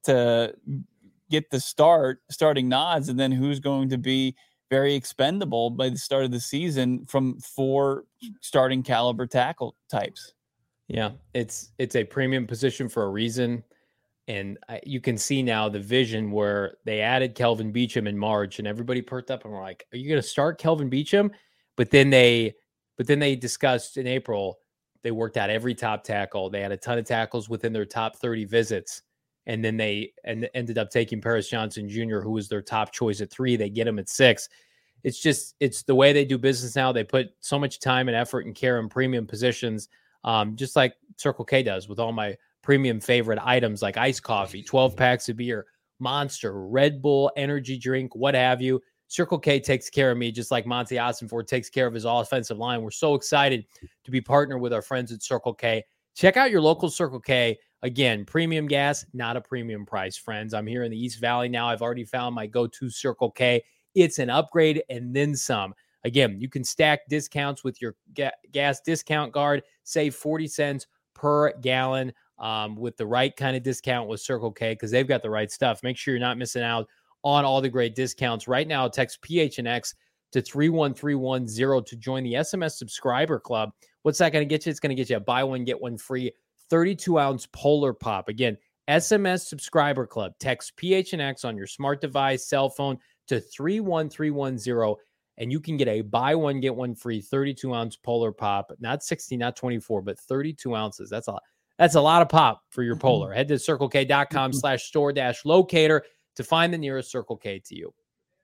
to get the start starting nods, and then who's going to be very expendable by the start of the season from four starting caliber tackle types. Yeah, it's it's a premium position for a reason. And I, you can see now the vision where they added Kelvin Beachum in March, and everybody perked up and were like, are you going to start Kelvin Beachum? But then they but then they discussed in April, they worked out every top tackle. They had a ton of tackles within their top thirty visits. And then they and ended up taking Paris Johnson Junior, who was their top choice at three. They get him at six. It's just, it's the way they do business now. They put so much time and effort and care in premium positions, um, just like Circle K does with all my premium favorite items like iced coffee, twelve packs of beer, Monster, Red Bull, energy drink, what have you. Circle K takes care of me just like Monty Ossenford takes care of his offensive line. We're so excited to be partnered with our friends at Circle K. Check out your local Circle K. Again, premium gas, not a premium price, friends. I'm here in the East Valley now. I've already found my go-to Circle K. It's an upgrade and then some. Again, you can stack discounts with your ga- gas discount card. Save forty cents per gallon um, with the right kind of discount with Circle K, because they've got the right stuff. Make sure you're not missing out on all the great discounts. Right now, text P H N X to three one three one zero to join the S M S subscriber club. What's that going to get you? It's going to get you a buy one, get one free thirty-two ounce Polar Pop. Again, S M S subscriber club. Text P H N X on your smart device, cell phone to three one three one zero, and you can get a buy one, get one free thirty-two ounce Polar Pop. Not sixty, not twenty-four, but thirty-two ounces. That's a, that's a lot of pop for your Polar. Head to circle k dot com slash store dash locator to find the nearest Circle K to you.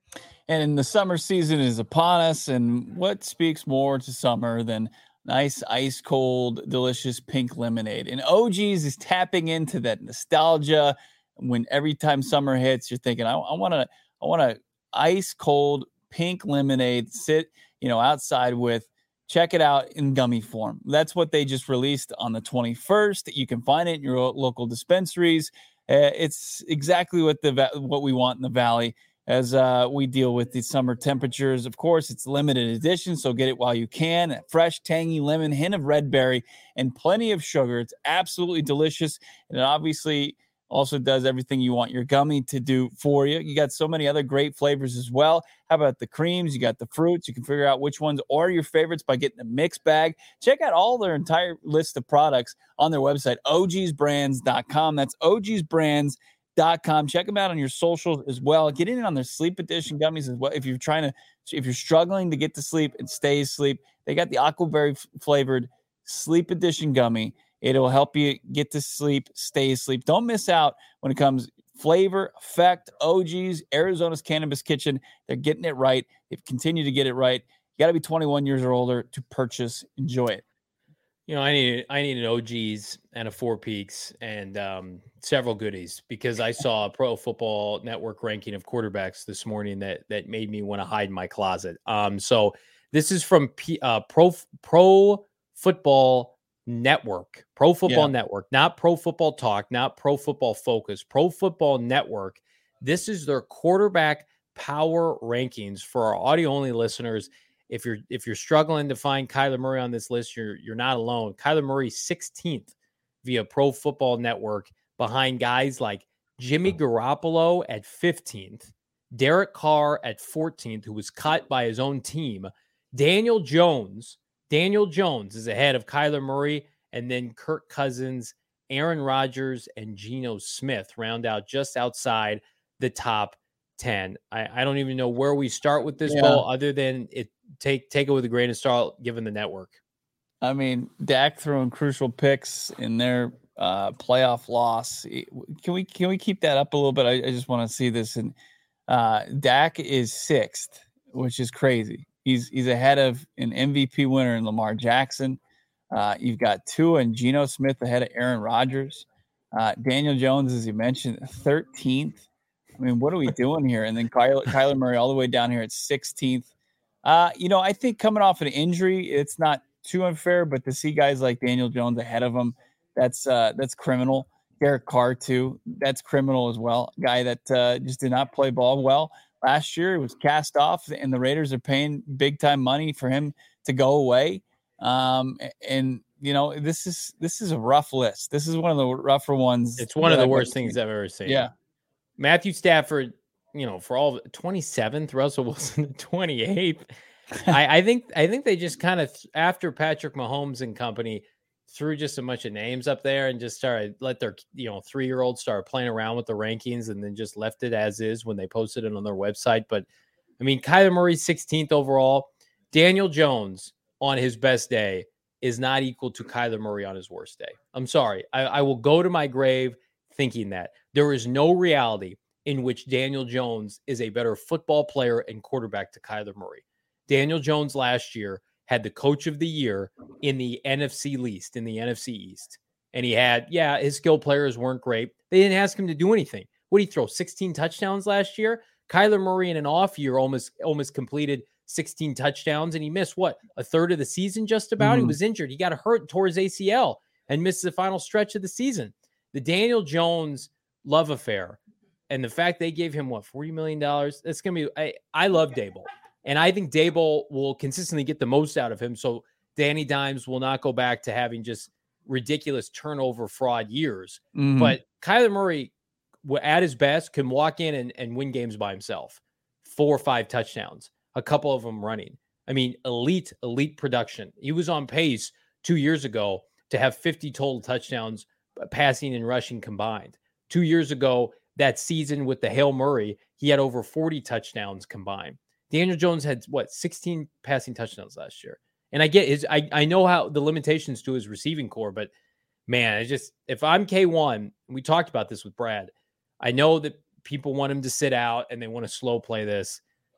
And the summer season is upon us. And what speaks more to summer than nice, ice cold, delicious pink lemonade? And O G's is tapping into that nostalgia. When every time summer hits, you're thinking, I want to, I want to ice cold pink lemonade, sit, you know, outside with. Check it out in gummy form. That's what they just released on the twenty-first. You can find it in your local dispensaries. Uh, it's exactly what the what we want in the Valley as uh, we deal with the summer temperatures. Of course, it's limited edition, so get it while you can. A fresh, tangy lemon, hint of red berry, and plenty of sugar. It's absolutely delicious, and it obviously also does everything you want your gummy to do for you. You got so many other great flavors as well. How about the creams? You got the fruits. You can figure out which ones are your favorites by getting a mix bag. Check out all their entire list of products on their website, O Gs brands dot com. That's O Gs brands dot com. Check them out on your socials as well. Get in on their sleep edition gummies as well. If you're trying to, if you're struggling to get to sleep and stay asleep, they got the aquaberry flavored sleep edition gummy. It'll help you get to sleep, stay asleep. Don't miss out when it comes flavor, effect, O Gs, Arizona's Cannabis Kitchen. They're getting it right. They've continued to get it right. You got to be twenty-one years or older to purchase. Enjoy it. You know, I need I need an O Gs and a Four Peaks and um, several goodies because I saw a Pro Football Network ranking of quarterbacks this morning that that made me want to hide in my closet. Um, so this is from P, uh, Pro Pro Football Network, Pro Football yeah. Network, not Pro Football Talk, not Pro Football Focus, Pro Football Network. This is their quarterback power rankings for our audio only listeners. If you're if you're struggling to find Kyler Murray on this list, you're you're not alone. Kyler Murray sixteenth via Pro Football Network, behind guys like Jimmy Garoppolo at fifteenth, Derek Carr at fourteenth, who was cut by his own team. Daniel Jones. Daniel Jones is ahead of Kyler Murray, and then Kirk Cousins, Aaron Rodgers, and Geno Smith round out just outside the top ten. I, I don't even know where we start with this yeah. ball, other than it take take it with a grain of salt, given the network. I mean, Dak throwing crucial picks in their uh, playoff loss. Can we can we keep that up a little bit? I, I just want to see this. And uh, Dak is sixth, which is crazy. He's he's ahead of an M V P winner in Lamar Jackson. Uh, you've got Tua and Geno Smith ahead of Aaron Rodgers. Uh, Daniel Jones, as you mentioned, thirteenth. I mean, what are we doing here? And then Kyler, Kyler Murray all the way down here at sixteenth. Uh, you know, I think coming off an injury, it's not too unfair, but to see guys like Daniel Jones ahead of him, that's uh, that's criminal. Derek Carr, too, that's criminal as well. Guy that uh, just did not play ball well. Last year, it was cast off, and the Raiders are paying big-time money for him to go away. Um, and, you know, this is this is a rough list. This is one of the rougher ones. It's one of the I've worst things I've ever seen. Yeah. Matthew Stafford, you know, for all twenty-seventh, Russell Wilson twenty-eighth. I, I think I think they just kind of, after Patrick Mahomes and company, threw just a bunch of names up there and just started let their, you know, three-year-olds start playing around with the rankings, and then just left it as is when they posted it on their website. But I mean, Kyler Murray sixteenth overall. Daniel Jones on his best day is not equal to Kyler Murray on his worst day. I'm sorry. I, I will go to my grave thinking that. There is no reality in which Daniel Jones is a better football player and quarterback to Kyler Murray. Daniel Jones last year had the coach of the year in the N F C least, in the N F C East. And he had, yeah, his skill players weren't great. They didn't ask him to do anything. What did he throw? sixteen touchdowns last year? Kyler Murray in an off year almost almost completed sixteen touchdowns, and he missed, what, a third of the season just about? Mm-hmm. He was injured. He got hurt, tore his A C L, and missed the final stretch of the season. The Daniel Jones love affair, and the fact they gave him, what, forty million dollars? That's going to be, I, I love Daboll. And I think Daboll will consistently get the most out of him. So Danny Dimes will not go back to having just ridiculous turnover fraud years. Mm-hmm. But Kyler Murray, at his best, can walk in and, and win games by himself. Four or five touchdowns, a couple of them running. I mean, elite, elite production. He was on pace two years ago to have fifty total touchdowns, passing and rushing combined. Two years ago, that season with the Hail Murray, he had over forty touchdowns combined. Daniel Jones had, what, sixteen passing touchdowns last year. And I get his, I, I know how the limitations to his receiving core, but man, I just, if I'm K one, we talked about this with Brad, I know that people want him to sit out and they want to slow play this,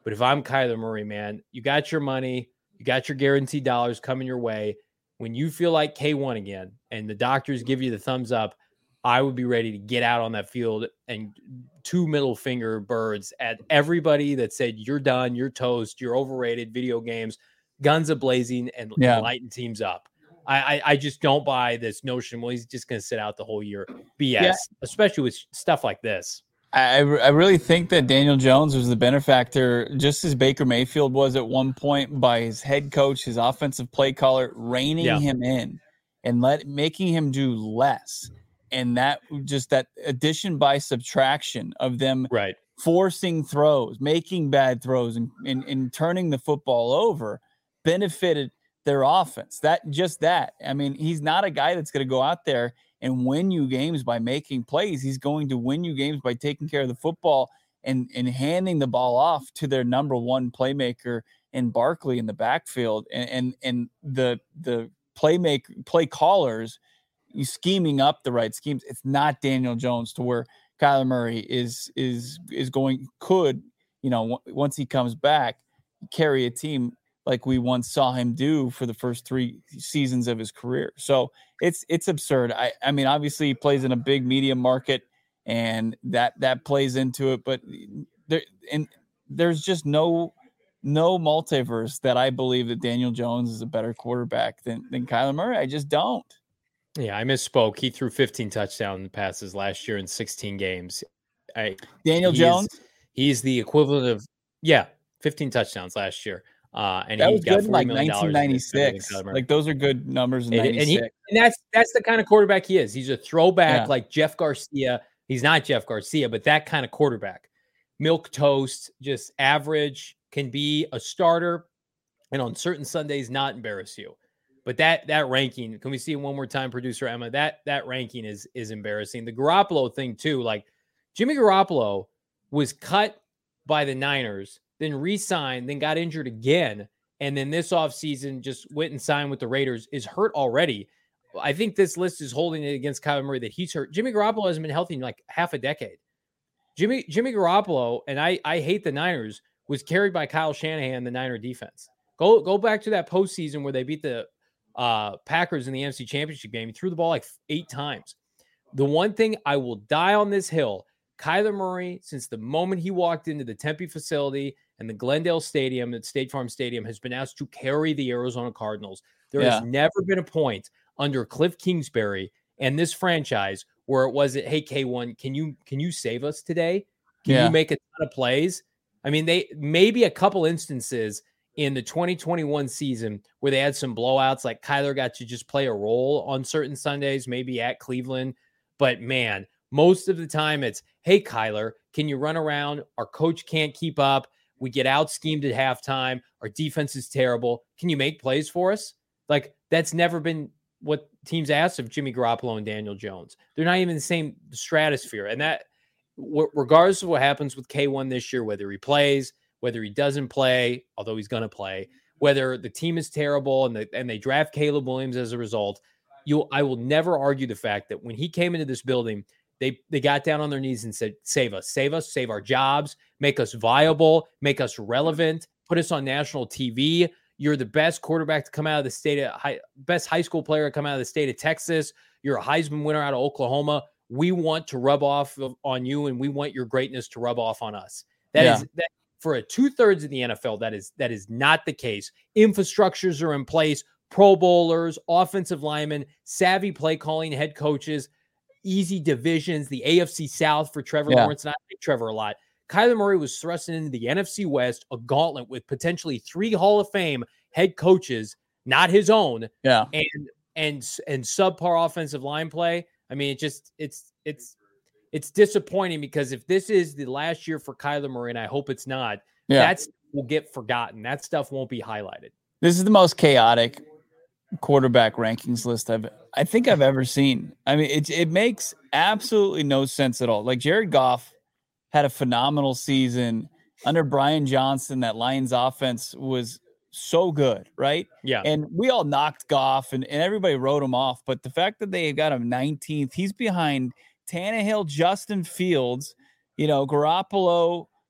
But if I'm Kyler Murray, man, you got your money, you got your guaranteed dollars coming your way. When you feel like K one again and the doctors give you the thumbs up, I would be ready to get out on that field and two middle finger birds at everybody that said, you're done, you're toast, you're overrated, video games, guns a-blazing, and, yeah. and lighting teams up. I, I, I just don't buy this notion, well, he's just going to sit out the whole year. B S, yeah. Especially with stuff like this. I, I really think that Daniel Jones was the benefactor, just as Baker Mayfield was at one point, by his head coach, his offensive play caller, reining yeah. him in and let making him do less. And that just that addition by subtraction of them right. forcing throws, making bad throws, and, and, and turning the football over benefited their offense. That just that. I mean, he's not a guy that's going to go out there and win you games by making plays. He's going to win you games by taking care of the football and, and handing the ball off to their number one playmaker in Barkley in the backfield. And and, and the the playmaker play callers, you scheming up the right schemes. It's not Daniel Jones to where Kyler Murray is is is going could, you know, w- once he comes back, carry a team like we once saw him do for the first three seasons of his career. So it's it's absurd. I, I mean, obviously he plays in a big media market, and that that plays into it. But there and there's just no no multiverse that I believe that Daniel Jones is a better quarterback than than Kyler Murray. I just don't. Yeah, I misspoke. He threw fifteen touchdown passes last year in sixteen games. I, Daniel he Jones? Is, he's the equivalent of, yeah, fifteen touchdowns last year. Uh, and that he was got good in like nineteen ninety-six. Like those are good numbers in and, ninety-six. And, he, and that's that's the kind of quarterback he is. He's a throwback yeah. like Jeff Garcia. He's not Jeff Garcia, but that kind of quarterback. Milk toast, just average, can be a starter, and on certain Sundays not embarrass you. But that that ranking, can we see it one more time, producer Emma? That that ranking is is embarrassing. The Garoppolo thing too, like Jimmy Garoppolo was cut by the Niners, then re-signed, then got injured again, and then this offseason just went and signed with the Raiders, is hurt already. I think this list is holding it against Kyler Murray that he's hurt. Jimmy Garoppolo hasn't been healthy in like half a decade. Jimmy Jimmy Garoppolo, and I I hate the Niners, was carried by Kyle Shanahan, the Niner defense. Go go back to that postseason where they beat the Uh, Packers in the N F C Championship game. He threw the ball like eight times. The one thing I will die on this hill, Kyler Murray, since the moment he walked into the Tempe facility and the Glendale Stadium at State Farm Stadium, has been asked to carry the Arizona Cardinals. There yeah. has never been a point under Cliff Kingsbury and this franchise where it wasn't, hey, K one, can you can you save us today? Can yeah. you make a ton of plays? I mean, they maybe a couple instances in the twenty twenty-one season where they had some blowouts, like Kyler got to just play a role on certain Sundays, maybe at Cleveland. But man, most of the time it's, hey, Kyler, can you run around? Our coach can't keep up. We get out schemed at halftime. Our defense is terrible. Can you make plays for us? Like, that's never been what teams asked of Jimmy Garoppolo and Daniel Jones. They're not even the same stratosphere. And that, regardless of what happens with K one this year, whether he plays, whether he doesn't play, although he's going to play, whether the team is terrible and, the, and they draft Caleb Williams as a result, you I will never argue the fact that when he came into this building, they, they got down on their knees and said, save us, save us, save our jobs, make us viable, make us relevant, put us on national T V. You're the best quarterback to come out of the state of high, best high school player to come out of the state of Texas. You're a Heisman winner out of Oklahoma. We want to rub off of, on you, and we want your greatness to rub off on us. That yeah. is that. For a two-thirds of the N F L, that is that is not the case. Infrastructures are in place, Pro Bowlers, offensive linemen, savvy play calling head coaches, easy divisions, the A F C South for Trevor yeah. Lawrence. And I like Trevor a lot. Kyler Murray was thrusting into the N F C West, a gauntlet with potentially three Hall of Fame head coaches, not his own, yeah, and and and subpar offensive line play. I mean, it just it's it's. It's disappointing because if this is the last year for Kyler Murray, and I hope it's not, yeah. that will get forgotten. That stuff won't be highlighted. This is the most chaotic quarterback rankings list I've I think I've ever seen. I mean, it it makes absolutely no sense at all. Like Jared Goff had a phenomenal season under Brian Johnson. That Lions offense was so good, right? Yeah. And we all knocked Goff, and, and everybody wrote him off. But the fact that they got him nineteenth, he's behind Tannehill, Justin Fields, you know, Garoppolo,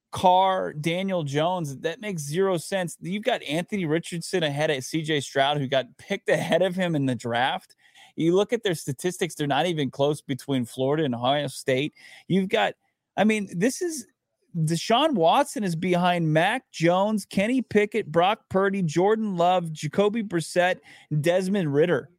Carr, Daniel Jones, that makes zero sense. You've got Anthony Richardson ahead of C J Stroud, who got picked ahead of him in the draft. You look at their statistics, they're not even close between Florida and Ohio State. You've got, I mean, this is Deshaun Watson is behind Mac Jones, Kenny Pickett, Brock Purdy, Jordan Love, Jacoby Brissett, Desmond Ridder.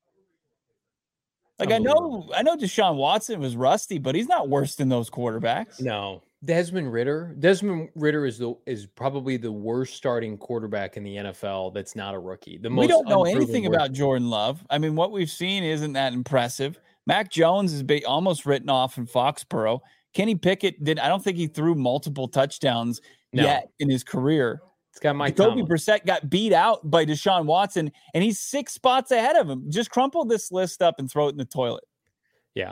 Like, I know, I know Deshaun Watson was rusty, but he's not worse than those quarterbacks. No, Desmond Ridder. Desmond Ridder is the is probably the worst starting quarterback in the N F L. That's not a rookie. The most we don't know anything worst. about Jordan Love. I mean, what we've seen isn't that impressive. Mac Jones is be almost written off in Foxborough. Kenny Pickett did. I don't think he threw multiple touchdowns no. yet in his career. It's got Mike Jacoby Brissett got beat out by Deshaun Watson, and he's six spots ahead of him. Just crumple this list up and throw it in the toilet. Yeah.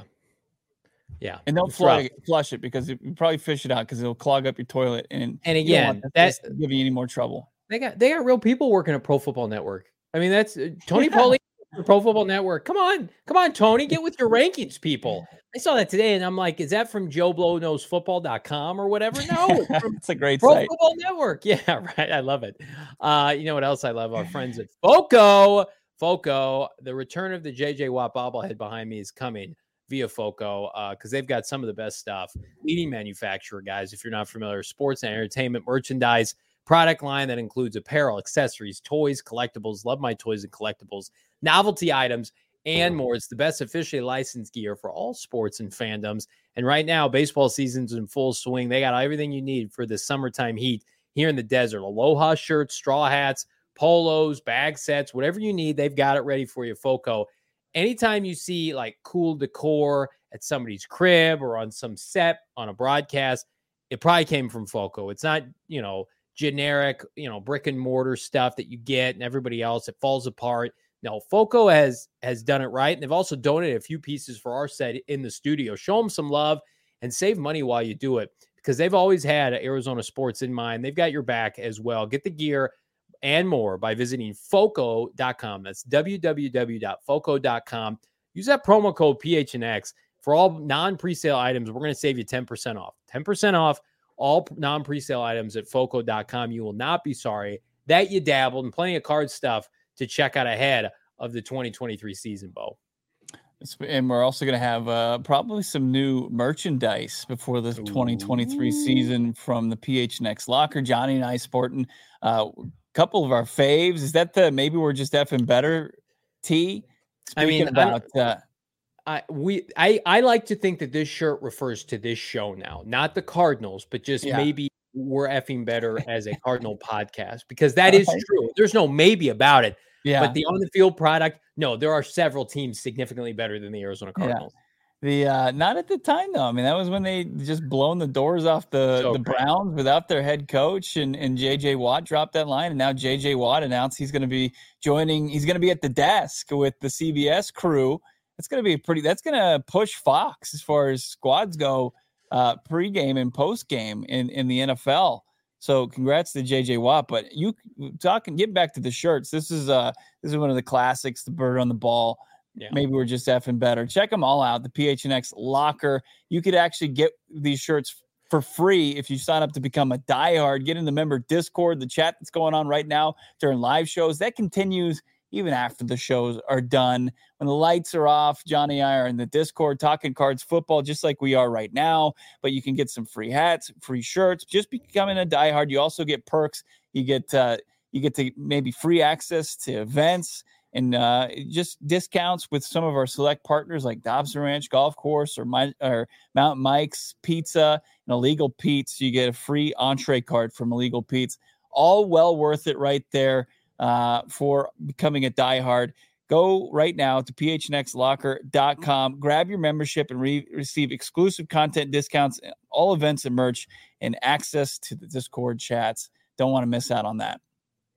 Yeah. And don't flush, flush it because you probably fish it out because it'll clog up your toilet. And, and again, that's give you any more trouble. They got they got real people working at Pro Football Network. I mean, that's uh, Tony yeah. Pauly, Pro Football Network. Come on. Come on, Tony. Get with your rankings, people. I saw that today, and I'm like, is that from Joe Blow Knows Football dot com or whatever? No, it's, from it's a great Pro site. Football Network. Yeah, right. I love it. Uh, you know what else I love? Our friends at Foco. Foco, the return of the J J Watt bobblehead behind me is coming via Foco because uh, they've got some of the best stuff. Leading manufacturer, guys, if you're not familiar, sports and entertainment merchandise product line that includes apparel, accessories, toys, collectibles. Love my toys and collectibles, novelty items, and more. It's the best officially licensed gear for all sports and fandoms. And right now, baseball season's in full swing. They got everything you need for the summertime heat here in the desert. Aloha shirts, straw hats, polos, bag sets, whatever you need, they've got it ready for you, Foco. Anytime you see like cool decor at somebody's crib or on some set on a broadcast, it probably came from Foco. It's not, you know, generic, you know, brick and mortar stuff that you get and everybody else. It falls apart. No, Foco has has done it right. And they've also donated a few pieces for our set in the studio. Show them some love and save money while you do it because they've always had Arizona sports in mind. They've got your back as well. Get the gear and more by visiting foco dot com. That's w w w dot foco dot com. Use that promo code P H N X for all non-presale items. We're going to save you ten percent off. ten percent off all non-presale items at foco dot com. You will not be sorry that you dabbled, and plenty of card stuff to check out ahead of the twenty twenty-three season, Bo. And we're also going to have uh, probably some new merchandise before the twenty twenty-three season from the P H N X Locker. Johnny and I sporting uh, couple of our faves. Is that the maybe we're just effing better T? Speaking I mean, about I, uh, I we I I like to think that this shirt refers to this show now, not the Cardinals, but just yeah. maybe we're effing better as a Cardinal podcast because that is true. There's no maybe about it. Yeah. But the on the field product, no, there are several teams significantly better than the Arizona Cardinals. Yeah. The uh, not at the time though. I mean, that was when they just blown the doors off the, so the Browns without their head coach, and and J J Watt dropped that line, and now J J Watt announced he's going to be joining. He's going to be at the desk with the C B S crew. That's going to be pretty. That's going to push Fox as far as squads go, uh, pregame and postgame in in the N F L. So congrats to J J Watt. But you talking, get back to the shirts. This is uh this is one of the classics. The bird on the ball. Yeah. Maybe we're just effing better. Check them all out. The P H N X Locker. You could actually get these shirts for free if you sign up to become a diehard. Get in the member Discord, the chat that's going on right now during live shows. That continues even after the shows are done. When the lights are off, Johnny and I are in the Discord talking cards football just like we are right now. But you can get some free hats, free shirts. Just becoming a diehard. You also get perks. You get uh, you get to maybe free access to events. And uh, just discounts with some of our select partners like Dobson Ranch Golf Course or, my, or Mount Mike's Pizza and Illegal Pete's. You get a free entree card from Illegal Pete's. All well worth it right there uh, for becoming a diehard. Go right now to p h n x locker dot com. Grab your membership and re- receive exclusive content discounts, all events and merch, and access to the Discord chats. Don't want to miss out on that.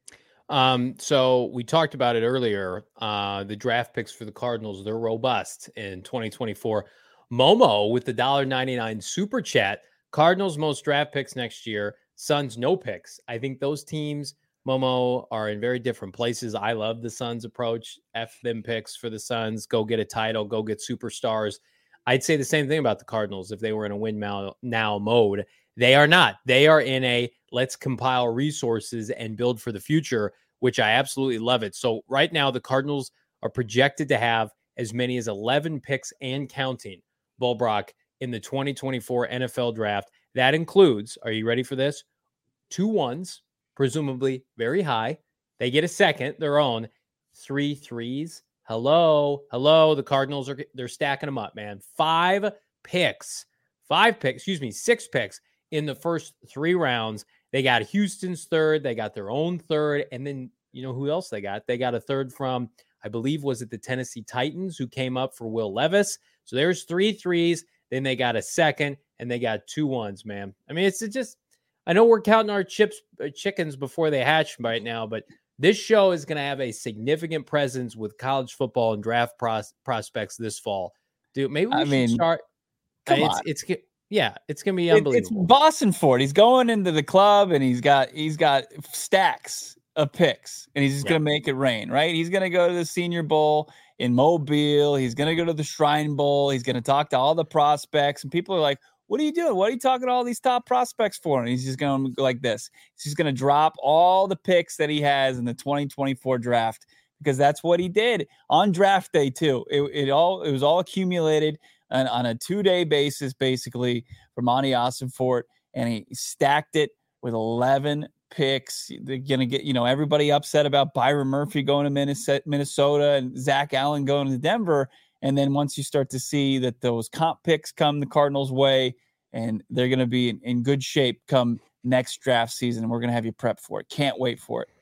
Um, so we talked about it earlier. Uh, the draft picks for the Cardinals, they're robust in twenty twenty-four. Momo with the one dollar and ninety-nine cents super chat. Cardinals most draft picks next year. Suns no picks. I think those teams, Momo, are in very different places. I love the Suns approach. F them picks for the Suns. Go get a title. Go get superstars. I'd say the same thing about the Cardinals if they were in a win now, now mode. They are not. They are in a let's compile resources and build for the future, which I absolutely love it. So right now, the Cardinals are projected to have as many as eleven picks and counting, Bull Brock, in the twenty twenty-four N F L draft. That includes, are you ready for this? Two ones, presumably very high. They get a second, their own. Three threes. Hello, hello. The Cardinals are they're stacking them up, man. Five picks, five picks, excuse me, six picks in the first three rounds. They got Houston's third. They got their own third. And then, you know who else they got? They got a third from, I believe, was it the Tennessee Titans, who came up for Will Levis. So there's three threes. Then they got a second, and they got two ones, man. I mean, it's just, I know we're counting our chips, uh, chickens before they hatch right now, but this show is going to have a significant presence with college football and draft pros- prospects this fall. Dude, maybe we I should mean, start. Come it's, on. it's, it's, yeah, it's going to be It, unbelievable. it's Boston Ford. He's going into the club and he's got, he's got stacks of picks and he's just Yeah. going to make it rain, right? He's going to go to the Senior Bowl in Mobile. He's going to go to the Shrine Bowl. He's going to talk to all the prospects and people are like, what are you doing? What are you talking to all these top prospects for? And he's just going to go like this. He's just going to drop all the picks that he has in the twenty twenty-four draft because that's what he did on draft day too. It, it all it was all accumulated on, on a two-day basis, basically, for Monty Ossenfort, and he stacked it with eleven picks. They're going to get, you know, everybody upset about Byron Murphy going to Minnesota and Zach Allen going to Denver. And then once you start to see that those comp picks come the Cardinals' way and they're going to be in, in good shape come next draft season, we're going to have you prep for it. Can't wait for it.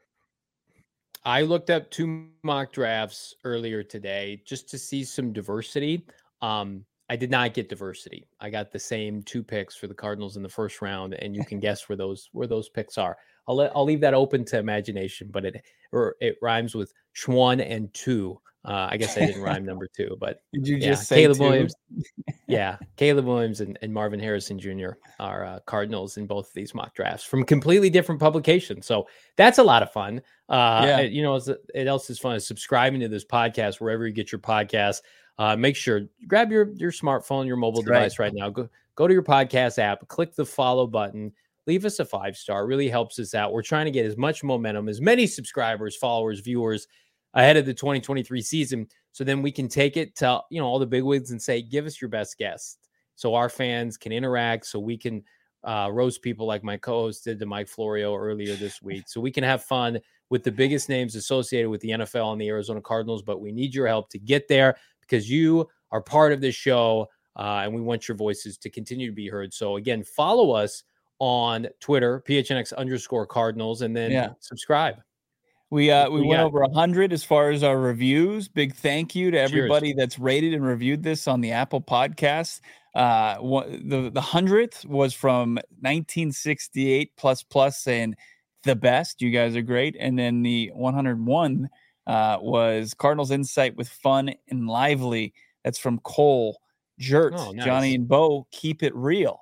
I looked up two mock drafts earlier today just to see some diversity. Um, I did not get diversity. I got the same two picks for the Cardinals in the first round, and you can guess where those where those picks are. I'll let I'll leave that open to imagination, but it or it rhymes with Schwan and two. Uh, I guess I didn't rhyme number two, but did you yeah, just say Caleb two? Williams? Yeah, Caleb Williams and, and Marvin Harrison Junior are uh, Cardinals in both of these mock drafts from completely different publications. So that's a lot of fun. Uh, Yeah. You know, it's, it else is fun is subscribing to this podcast wherever you get your podcast. Uh, make sure grab your your smartphone, your mobile That's right. device right now. Go go to your podcast app, click the follow button, leave us a five star. It really helps us out. We're trying to get as much momentum, as many subscribers, followers, viewers ahead of the twenty twenty-three season, so then we can take it to, you know, all the bigwigs and say, give us your best guest, so our fans can interact, so we can uh, roast people like my co-host did to Mike Florio earlier this week, so we can have fun with the biggest names associated with the N F L and the Arizona Cardinals. But we need your help to get there because you are part of this show, uh, and we want your voices to continue to be heard. So again, follow us on Twitter, P H N X underscore Cardinals, and then Yeah. subscribe. We uh What we do you went got? over a hundred as far as our reviews. Big thank you to Cheers. everybody that's rated and reviewed this on the Apple Podcast. Uh, one, the the hundredth was from nineteen sixty-eight plus plus saying the best. You guys are great, and then the one hundred one uh, was Cardinals Insight with fun and lively. That's from Cole, Jert, Oh, nice. Johnny, and Bo. Keep it real.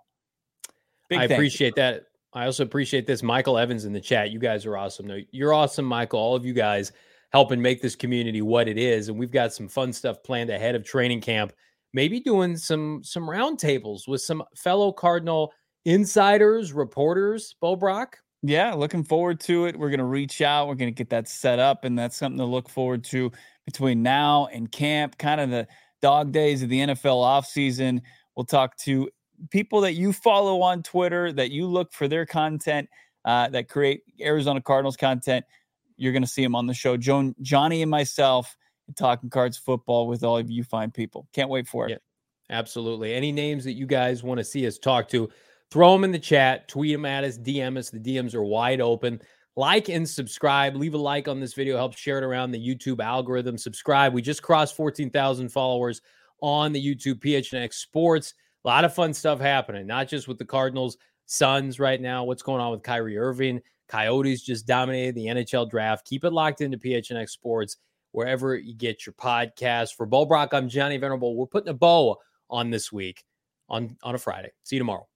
Big I thank you. appreciate that. I also appreciate this. Michael Evans in the chat. You guys are awesome. No, you're awesome, Michael. All of you guys helping make this community what it is. And we've got some fun stuff planned ahead of training camp. Maybe doing some some roundtables with some fellow Cardinal insiders, reporters. Bo Brock. Yeah, looking forward to it. We're going to reach out. We're going to get that set up, and that's something to look forward to between now and camp, kind of the dog days of the N F L offseason. We'll talk to people that you follow on Twitter, that you look for their content, uh, that create Arizona Cardinals content. You're going to see them on the show. Joan, Johnny and myself talking Cards football with all of you fine people. Can't wait for it. Yeah, absolutely. Any names that you guys want to see us talk to, throw them in the chat, tweet them at us, D M us. The D Ms are wide open. Like and subscribe. Leave a like on this video. Help share it around the YouTube algorithm. Subscribe. We just crossed fourteen thousand followers on the YouTube P H N X Sports. A lot of fun stuff happening, not just with the Cardinals, Suns right now. What's going on with Kyrie Irving? Coyotes just dominated the N H L draft. Keep it locked into P H N X Sports, wherever you get your podcast. For Bo Brock, I'm Johnny Venerable. We're putting a bow on this week on, on a Friday. See you tomorrow.